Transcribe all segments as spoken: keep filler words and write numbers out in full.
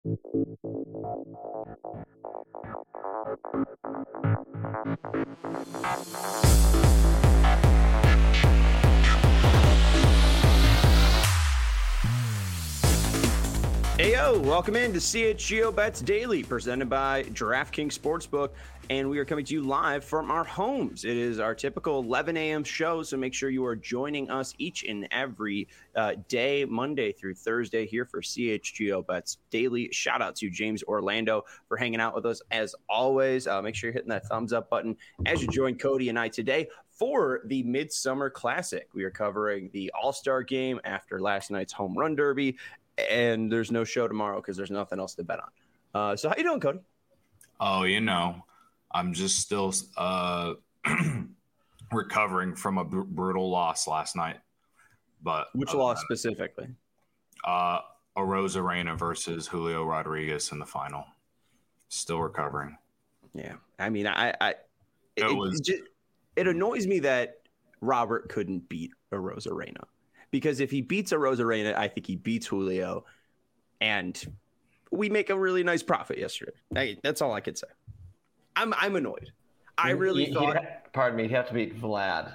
Heyo, welcome in to C H G O Bets Daily, presented by DraftKings Sportsbook, and we are coming to you live from our homes. It is our typical eleven a.m. show, so make sure you are joining us each and every uh, day, Monday through Thursday, here for C H G O Bets Daily. Shout out to James Orlando for hanging out with us as always. Uh, make sure you're hitting that thumbs up button as you join Cody and I today for the Midsummer Classic. We are covering the All-Star Game after last night's Home Run Derby, and there's no show tomorrow because there's nothing else to bet on. Uh, so how you doing, Cody? Oh, you know, I'm just still uh, recovering from a br- brutal loss last night. But Which uh, loss specifically? Uh, Arozarena versus Julio Rodriguez in the final. Still recovering. Yeah, I mean, I, I it, it, was, it, just, it annoys me that Robert couldn't beat Arozarena. Because if he beats Arozarena, I think he beats Julio, and we make a really nice profit yesterday. I, that's all I could say. I'm I'm annoyed. I really he, thought. Ha- pardon me. He'd have to beat Vlad,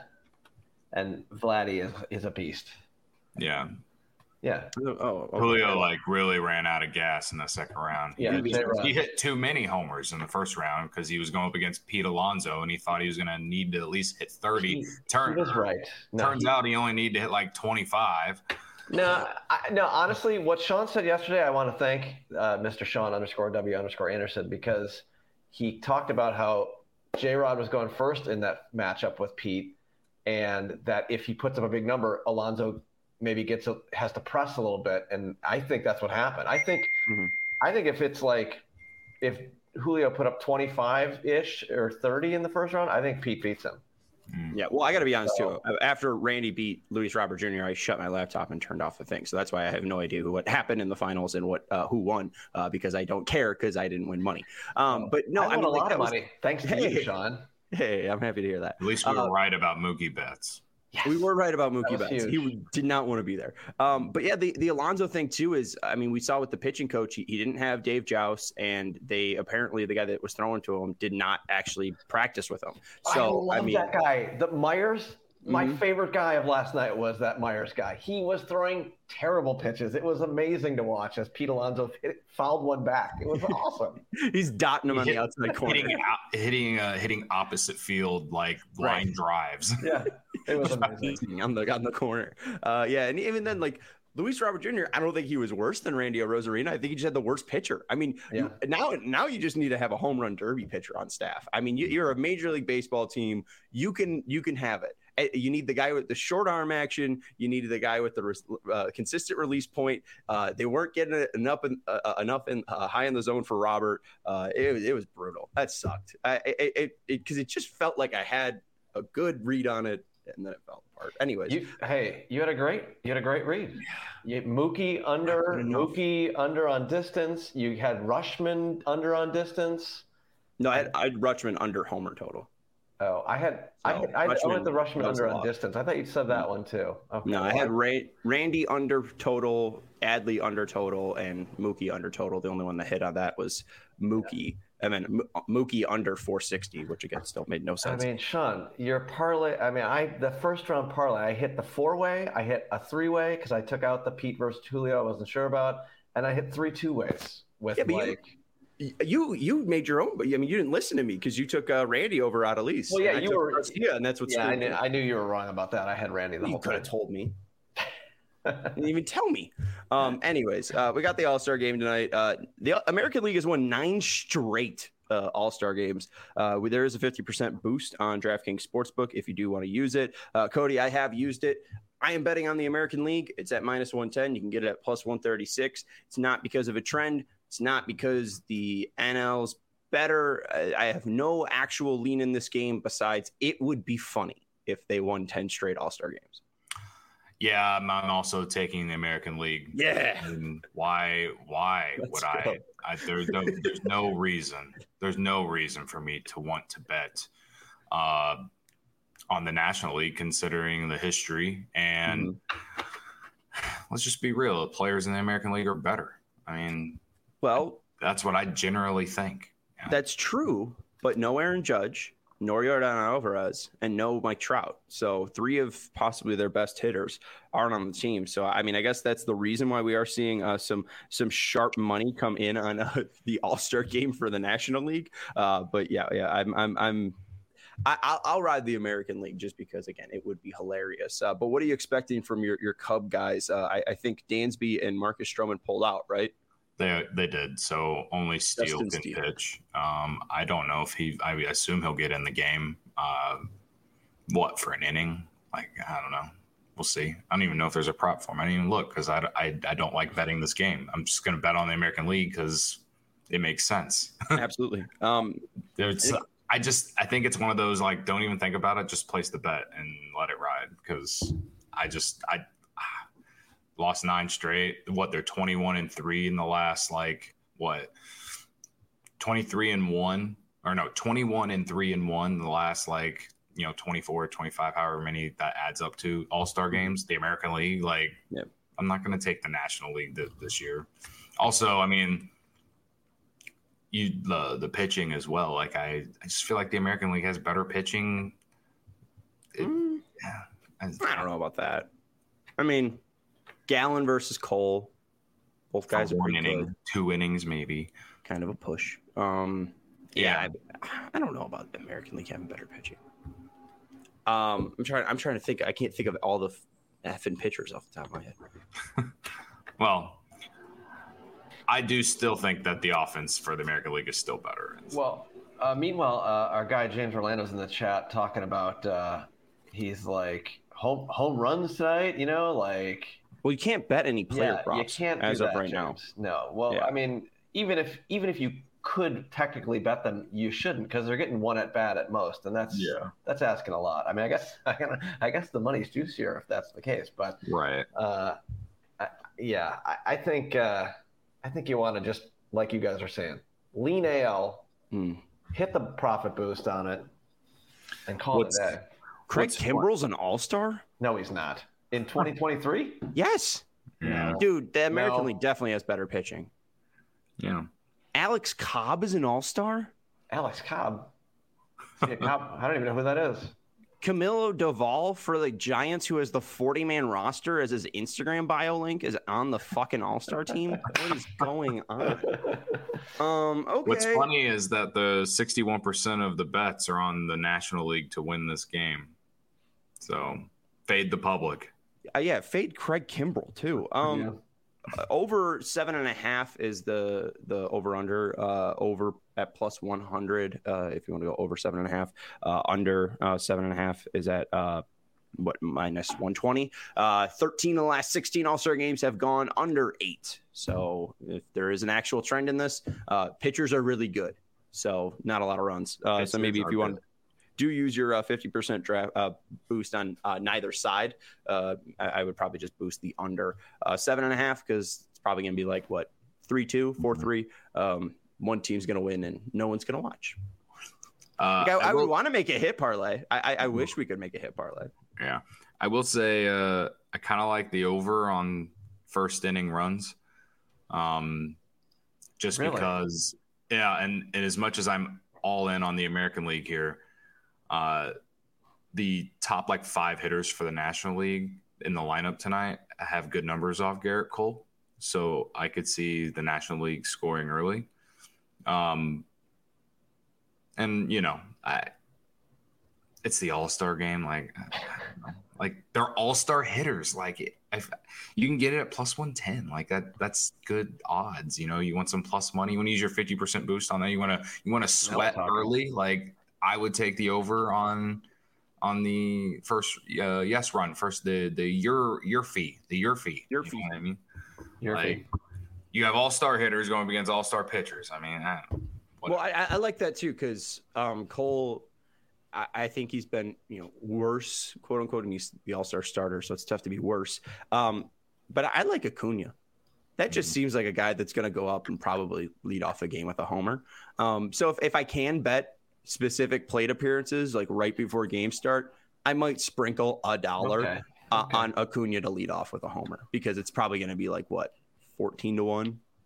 and Vladdy is is a beast. Yeah. Yeah. Oh, okay. Julio like really ran out of gas in the second round. Yeah, he, was, he hit too many homers in the first round because he was going up against Pete Alonso, and he thought he was going to need to at least hit thirty. He, Turn, he was right. No, turns he, out he only needed to hit like twenty-five. No, I, no. Honestly, what Sean said yesterday, I want to thank uh, Mister Sean underscore W underscore Anderson, because he talked about how J-Rod was going first in that matchup with Pete, and that if he puts up a big number, Alonso maybe gets a, has to press a little bit, and I think that's what happened. I think mm-hmm. I think if it's like if Julio put up twenty-five ish or thirty in the first round, I think Pete beats him. Yeah, well, I got to be honest so, too. After Randy beat Luis Robert Junior, I shut my laptop and turned off the thing. So that's why I have no idea what happened in the finals and what uh, who won, uh, because I don't care because I didn't win money. Um, but no, I won I mean, a like, lot of was, money. Thanks to hey, you, Sean. Hey, I'm happy to hear that. At least we were uh, right about Mookie Betts. Yes. We were right about Mookie Betts. Huge. He did not want to be there. Um, but yeah, the, the Alonso thing too is, I mean, we saw with the pitching coach, he, he didn't have Dave Joust, and they apparently the guy that was throwing to him did not actually practice with him. So I love I mean, that guy, the Myers. My mm-hmm. favorite guy of last night was that Myers guy. He was throwing terrible pitches. It was amazing to watch as Pete Alonso hit, fouled one back. It was awesome. He's dotting him on hit, the outside corner, hitting hitting uh, hitting opposite field like line right. drives. Yeah, it was amazing on the on the corner. Uh, yeah, and even then, like Luis Robert Junior, I don't think he was worse than Randy Arozarena. I think he just had the worst pitcher. I mean, yeah. you, now now you just need to have a home run derby pitcher on staff. I mean, you, you're a Major League Baseball team. You can you can have it. You need the guy with the short arm action. You needed the guy with the uh, consistent release point. Uh, they weren't getting it enough in, uh, enough in, uh, high in the zone for Robert. Uh, it, it was brutal. That sucked. I, it it because it, it just felt like I had a good read on it, and then it fell apart. Anyways, you, hey, you had a great you had a great read. You, Mookie under Mookie under on distance. You had Rutschman under on distance. No, I had, I had Rutschman under homer total. Oh, I had, so, I, had I, I went the Rutschman under on distance. I thought you said that one too. Okay. No, I had Ray, Randy under total, Adley under total, and Mookie under total. The only one that hit on that was Mookie. Yeah. And then M- Mookie under four sixty, which again still made no sense. I mean, Sean, your parlay. I mean, I the first round parlay, I hit the four way, I hit a three way because I took out the Pete versus Julio. I wasn't sure about, and I hit three two ways with yeah, like. You- You you made your own, but I mean, you didn't listen to me because you took uh, Randy over Adelise. Well, yeah, you were. Yeah, and that's what's. Yeah, I knew, I knew you were wrong about that. I had Randy the you whole could have time. told me. Didn't even tell me. Um. Anyways, uh, we got the All-Star game tonight. Uh, the American League has won nine straight uh, All-Star games. Uh, there is a fifty percent boost on DraftKings Sportsbook if you do want to use it. Uh, Cody, I have used it. I am betting on the American League. It's at minus one ten. You can get it at plus one thirty-six. It's not because of a trend. It's not because the N L's better. I have no actual lean in this game besides it would be funny if they won ten straight All-Star games. Yeah, I'm also taking the American League. Yeah. And why why Let's would I, I there's no there's no reason. There's no reason for me to want to bet uh, on the National League considering the history. And mm-hmm. let's just be real, the players in the American League are better. I mean, Well, that's what I generally think. Yeah. That's true, but no Aaron Judge, nor Yordan Alvarez, and no Mike Trout. So three of possibly their best hitters aren't on the team. So, I mean, I guess that's the reason why we are seeing uh, some some sharp money come in on uh, the All-Star game for the National League. Uh, but yeah, yeah, I'm I'm I'm I, I'll, I'll ride the American League just because, again, it would be hilarious. Uh, but what are you expecting from your your Cub guys? Uh, I, I think Dansby and Marcus Stroman pulled out, right? They they did. So only Steele Justin can Steele. pitch. Um, I don't know if he. I assume he'll get in the game. Uh, what for an inning? Like I don't know. We'll see. I don't even know if there's a prop for him. I didn't even look because I, I I don't like betting this game. I'm just going to bet on the American League because it makes sense. Absolutely. Um, there's. I just I think it's one of those like don't even think about it. Just place the bet and let it ride because I just I. Lost nine straight. What they're twenty-one and three in the last like what twenty-three and one or no twenty-one and three and one in the last like you know twenty-four, twenty-five, however many that adds up to All-Star games. The American League, like yep. I'm not going to take the National League th- this year. Also, I mean, you the the pitching as well. Like I, I just feel like the American League has better pitching. It, mm. yeah, I, I don't know about that. I mean. Gallen versus Cole. Both guys are one pretty inning, good. two innings, maybe. Kind of a push. Um, yeah, yeah. I, I don't know about the American League having better pitching. Um, I'm trying. I'm trying to think. I can't think of all the effing pitchers off the top of my head. Well, I do still think that the offense for the American League is still better. Well, uh, meanwhile, uh, our guy James Orlando's in the chat talking about. Uh, he's like home home runs tonight. You know, like. Well, you can't bet any player yeah, props you can't as do of that, right James. now. No. Well, yeah. I mean, even if even if you could technically bet them, you shouldn't because they're getting one at bat at most, and that's yeah. that's asking a lot. I mean, I guess I guess the money's juicier if that's the case, but right. Uh, I, yeah, I, I think uh, I think you want to just like you guys are saying, lean A L, hmm. hit the profit boost on it, and call what's, it a day. Craig what's, Kimbrell's an all-star? No, he's not. In twenty twenty-three? Yes. Yeah. Dude, the American No. League definitely has better pitching. Yeah. Alex Cobb is an all-star? Alex Cobb? See, Cobb? I don't even know who that is. Camilo Doval for the Giants, who has the forty-man roster as his Instagram bio link, is on the fucking all-star team? What is going on? Um, okay. What's funny is that the sixty-one percent of the bets are on the National League to win this game. So, fade the public. Uh, yeah, fade Craig Kimbrell too. Um, Yeah. uh, over seven and a half is the the over under. Uh, over at plus one hundred. Uh, if you want to go over seven and a half, uh, under uh, seven and a half is at uh, what minus one twenty. Uh, thirteen of the last sixteen All-Star games have gone under eight. So if there is an actual trend in this, uh, pitchers are really good. So not a lot of runs. Uh, so maybe if you want. Do use your uh, fifty percent draft uh, boost on uh, neither side. Uh, I, I would probably just boost the under uh, seven and a half because it's probably going to be like, what, three two, four three. Um, one team's going to win and no one's going to watch. Uh, like I, I, I will, would want to make a hit parlay. I, I, I wish we could make a hit parlay. Yeah. I will say uh, I kind of like the over on first inning runs um, just Really? because, yeah, and, and as much as I'm all in on the American League here, Uh, the top like five hitters for the National League in the lineup tonight have good numbers off Garrett Cole. So I could see the National League scoring early. Um, and, you know, I, it's the All-Star game. Like, like they're All-Star hitters. Like, if you can get it at plus one ten, like that, that's good odds. You know, you want some plus money. You want to use your fifty percent boost on that. You want to, you want to sweat early. Like, I would take the over on on the first uh, yes run first the the your your fee the your fee your you fee. Know what I mean, Your like fee. you have all star hitters going up against all star pitchers. I mean, I don't know. Well, I, I like that too because um, Cole, I, I think he's been you know worse, quote unquote, and he's the All Star starter, so it's tough to be worse. Um, but I like Acuna. That just seems like a guy that's going to go up and probably lead off the game with a homer. Um, so if, if I can bet specific plate appearances like right before game start, I might sprinkle a dollar Okay. uh, Okay. on Acuna to lead off with a homer because it's probably going to be like what fourteen to one.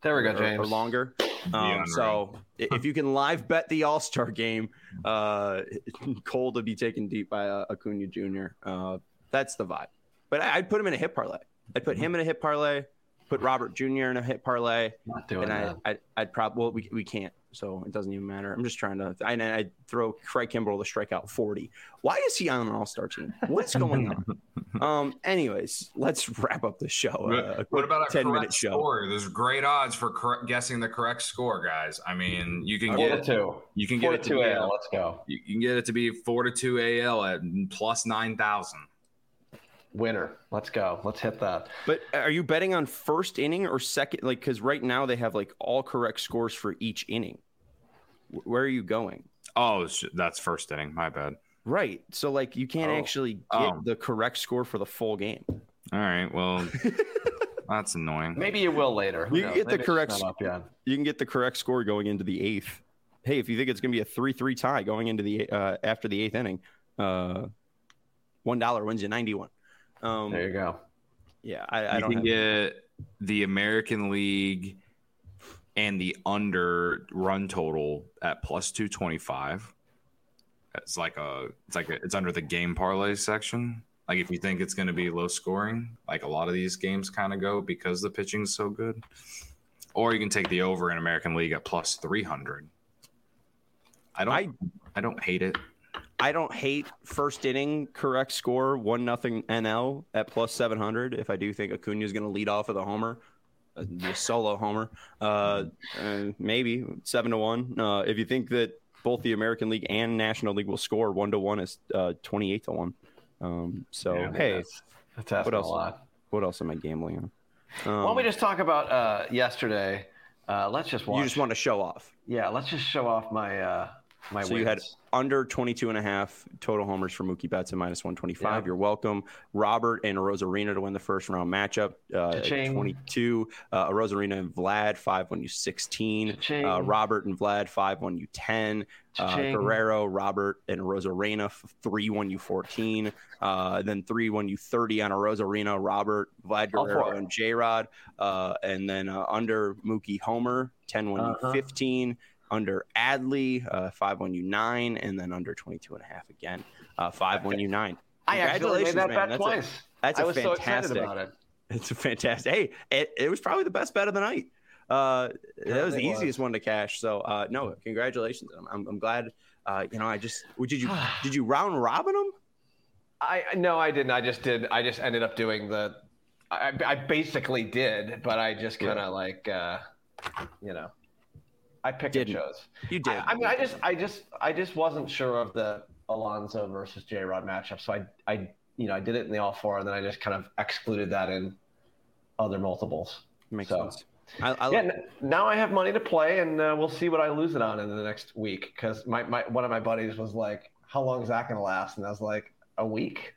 There we go, or, James. or longer. Um, so if you can live bet the All-Star game, uh, Cole to be taken deep by uh, Acuna Junior Uh, that's the vibe. But I, I'd put him in a hit parlay. I'd put him in a hit parlay. Put Robert Junior in a hit parlay. Not doing and I, that. I, I'd probably well, we we can't, so it doesn't even matter. I'm just trying to. I I'd throw Craig Kimbrell to strike out forty. Why is he on an All-Star team? What's going on? um. Anyways, let's wrap up the show. Uh, what about a ten correct minute show? score? There's great odds for correct, guessing the correct score, guys. I mean, you can get Four to two. You can Four get to it to two be A L. Let's go. You can get it to be four to two A L at plus nine thousand. Winner. Let's go. Let's hit that. But are you betting on first inning or second? Like, because right now they have like all correct scores for each inning. Where are you going? Oh, that's first inning. My bad. Right. So like you can't oh. actually get oh. the correct score for the full game. All right. Well, that's annoying. Maybe you will later. Who you can knows? get Maybe the correct. it's not up yet. You can get the correct score going into the eighth. Hey, if you think it's going to be a three three tie going into the uh, after the eighth inning, uh, one dollar wins you ninety one. Um, there you go. Yeah, I, I you don't can have... get the American League and the under run total at plus two twenty five. It's like a, it's like a, it's under the game parlay section. Like if you think it's going to be low scoring, like a lot of these games kind of go because the pitching is so good. Or you can take the over in American League at plus three hundred. I don't, I, I don't hate it. I don't hate first inning correct score one nothing N L at plus seven hundred. If I do think Acuna is going to lead off with a homer, a solo homer, uh, uh, maybe seven to one. Uh, if you think that both the American League and National League will score one to one, is uh, twenty eight to one. Um, so Yeah, hey, that's, that's asking what else? a lot. What else am I gambling on? Um, Why don't we just talk about uh, yesterday? Uh, let's just watch. You just want to show off. Yeah, let's just show off my uh, my. So wins. you had under twenty-two and a half total homers for Mookie Betts at minus one twenty-five. Yeah. You're welcome. Robert and Arozarena to win the first round matchup. Uh, at twenty-two. Uh, Arozarena and Vlad, five won you sixteen. Uh, Robert and Vlad, five won you ten. Uh, Guerrero, Robert, and Arozarena, three won you fourteen. Uh, then three won you thirty on Arozarena, Robert, Vlad Guerrero, and J-Rod. Uh, and then uh, under Mookie Homer, ten won uh-huh. you fifteen. Under Adley, uh, five won you nine, and then under twenty-two and a half again, uh, five won you nine. I actually made that man. bet that's twice. A, that's I a was fantastic. so excited about it. It's a fantastic. Hey, it, it was probably the best bet of the night. Uh, that was the easiest was. one to cash. So uh, no, congratulations. I'm, I'm, I'm glad. Uh, you know, I just did you did you round robin them? I no, I didn't. I just did. I just ended up doing the. I, I basically did, but I just kind of yeah. like, uh, you know. I picked Didn't. and chose. You did. I, I mean, I just, I just, I just wasn't sure of the Alonso versus J-Rod matchup, so I, I, you know, I did it in the all four, and then I just kind of excluded that in other multiples. Makes so, sense. I, I yeah. N- now I have money to play, and uh, we'll see what I lose it on in the next week. Because my, my, one of my buddies was like, "How long is that going to last?" And I was like, "A week."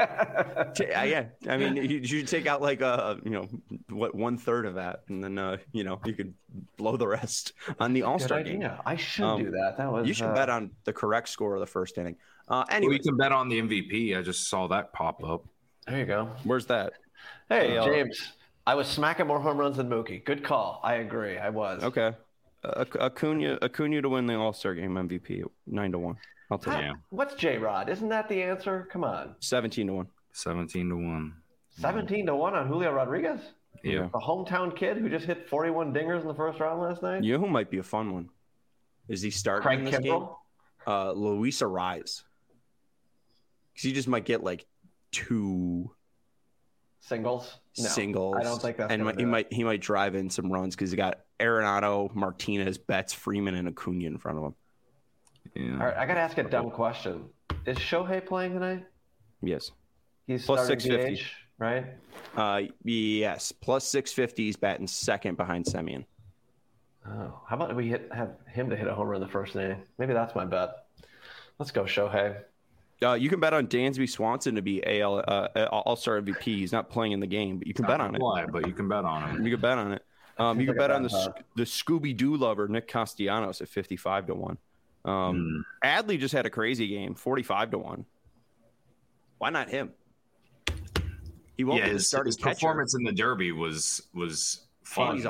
yeah, I mean, you, you should take out like a, you know, what one third of that, and then uh, you know, you could blow the rest on the All Star game. Yeah, I should um, do that. That was. You should uh... bet on the correct score of the first inning. Uh, anyway, well, you can bet on the M V P. I just saw that pop up. There you go. Where's that? Hey, uh, James. I was smacking more home runs than Mookie. Good call. I agree. I was. Okay. Uh, Acuna, Acuna to win the All Star game M V P, nine to one. I'll tell you. What's J-Rod? Isn't that the answer? Come on. Seventeen to one. Seventeen to one. Seventeen to one on Julio Rodriguez. Yeah. The hometown kid who just hit forty-one dingers in the first round last night. You know who might be a fun one? Is he starting Craig in this Kimbrell? game? Uh, Luis Arraez. Because he just might get like two singles. No, singles. I don't think that's. And he it. might he might drive in some runs because he got Arenado, Martinez, Betts, Freeman, and Acuna in front of him. Yeah. All right, I got to ask a dumb question. Is Shohei playing tonight? Yes. He's plus starting six fifty, D H, right? Uh, yes, plus six fifty. He's batting second behind Semien. Oh, how about we hit have him to hit a homer in the first inning? Maybe that's my bet. Let's go, Shohei. Uh, you can bet on Dansby Swanson to be A L uh, All-Star M V P. He's not playing in the game, but you can bet on it. Why? But you can bet on it. You can bet on it. Um, you can bet on the the Scooby Doo lover Nick Castellanos at fifty-five to one. Um, mm. Adley just had a crazy game, forty-five to one. Why not him? He won't yeah, be his, starting his catcher. Performance in the Derby was was fun. And he's a home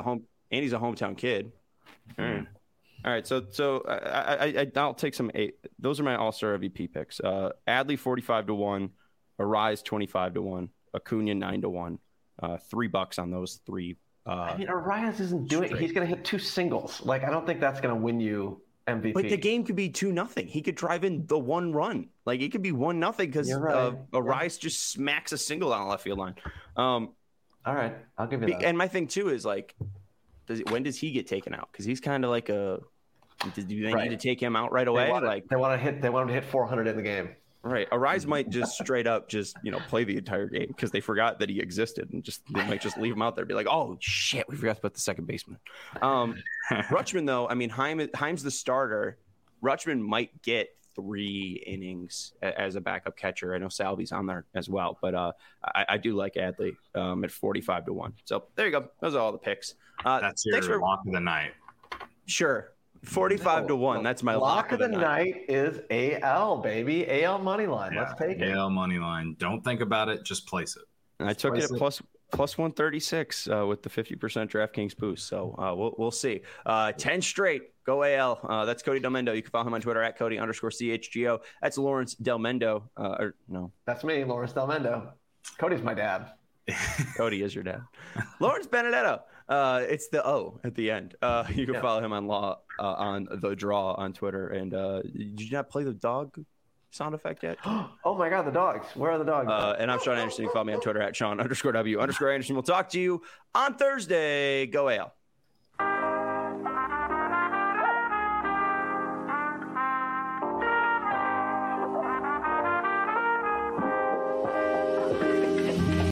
and he's a hometown kid. All right. Mm. All right, so so I, I, I I'll take some eight. Those are my All-Star M V P picks. Uh, Adley forty-five to one, Arise twenty-five to one, Acuna nine to one. Uh, three bucks on those three. Uh, I mean, Arias isn't doing. straight. He's going to hit two singles. Like, I don't think that's going to win you M V P. But the game could be two nothing. He could drive in the one run. Like it could be one nothing because right. uh, Arise yeah. just smacks a single down the left field line. Um, All right, I'll give you that. And my thing too is like, does when does he get taken out? Because he's kind of like a. Do they right. need to take him out right away? They want, like they want to hit. They want him to hit four hundred in the game. Right. Arise might just straight up just, you know, play the entire game because they forgot that he existed and just they might just leave him out there and be like, oh, shit, we forgot to put the second baseman. Um, Rutschman, though, I mean, Heim, Heim's the starter. Rutschman might get three innings as a backup catcher. I know Salvy's on there as well, but uh, I, I do like Adley um, at forty-five to one. So there you go. Those are all the picks. Uh, That's your for, lock of the night. Sure. forty-five to one. That's my lock, lock of the, the night. night is A L, baby. A L money line. Yeah, Let's take it. A L money line. Don't think about it. Just place it. And I took place it at it. plus plus one thirty-six uh, with the fifty percent DraftKings boost. So uh, we'll we'll see. Uh, ten straight. Go A L. Uh, that's Cody Del Mendo. You can follow him on Twitter at Cody underscore C H G O. That's Lawrence Del Mendo. Uh, or no. That's me, Lawrence Del Mendo. Cody's my dad. Cody is your dad. Lawrence Benedetto. Uh, it's the O at the end. Uh, you can yeah. follow him on law uh, on the draw on Twitter. And uh, did you not play the dog sound effect yet? Oh my God, the dogs! Where are the dogs? Uh, and I'm Sean Anderson. You can follow me on Twitter at Sean underscore W underscore Anderson. We'll talk to you on Thursday. Go A L.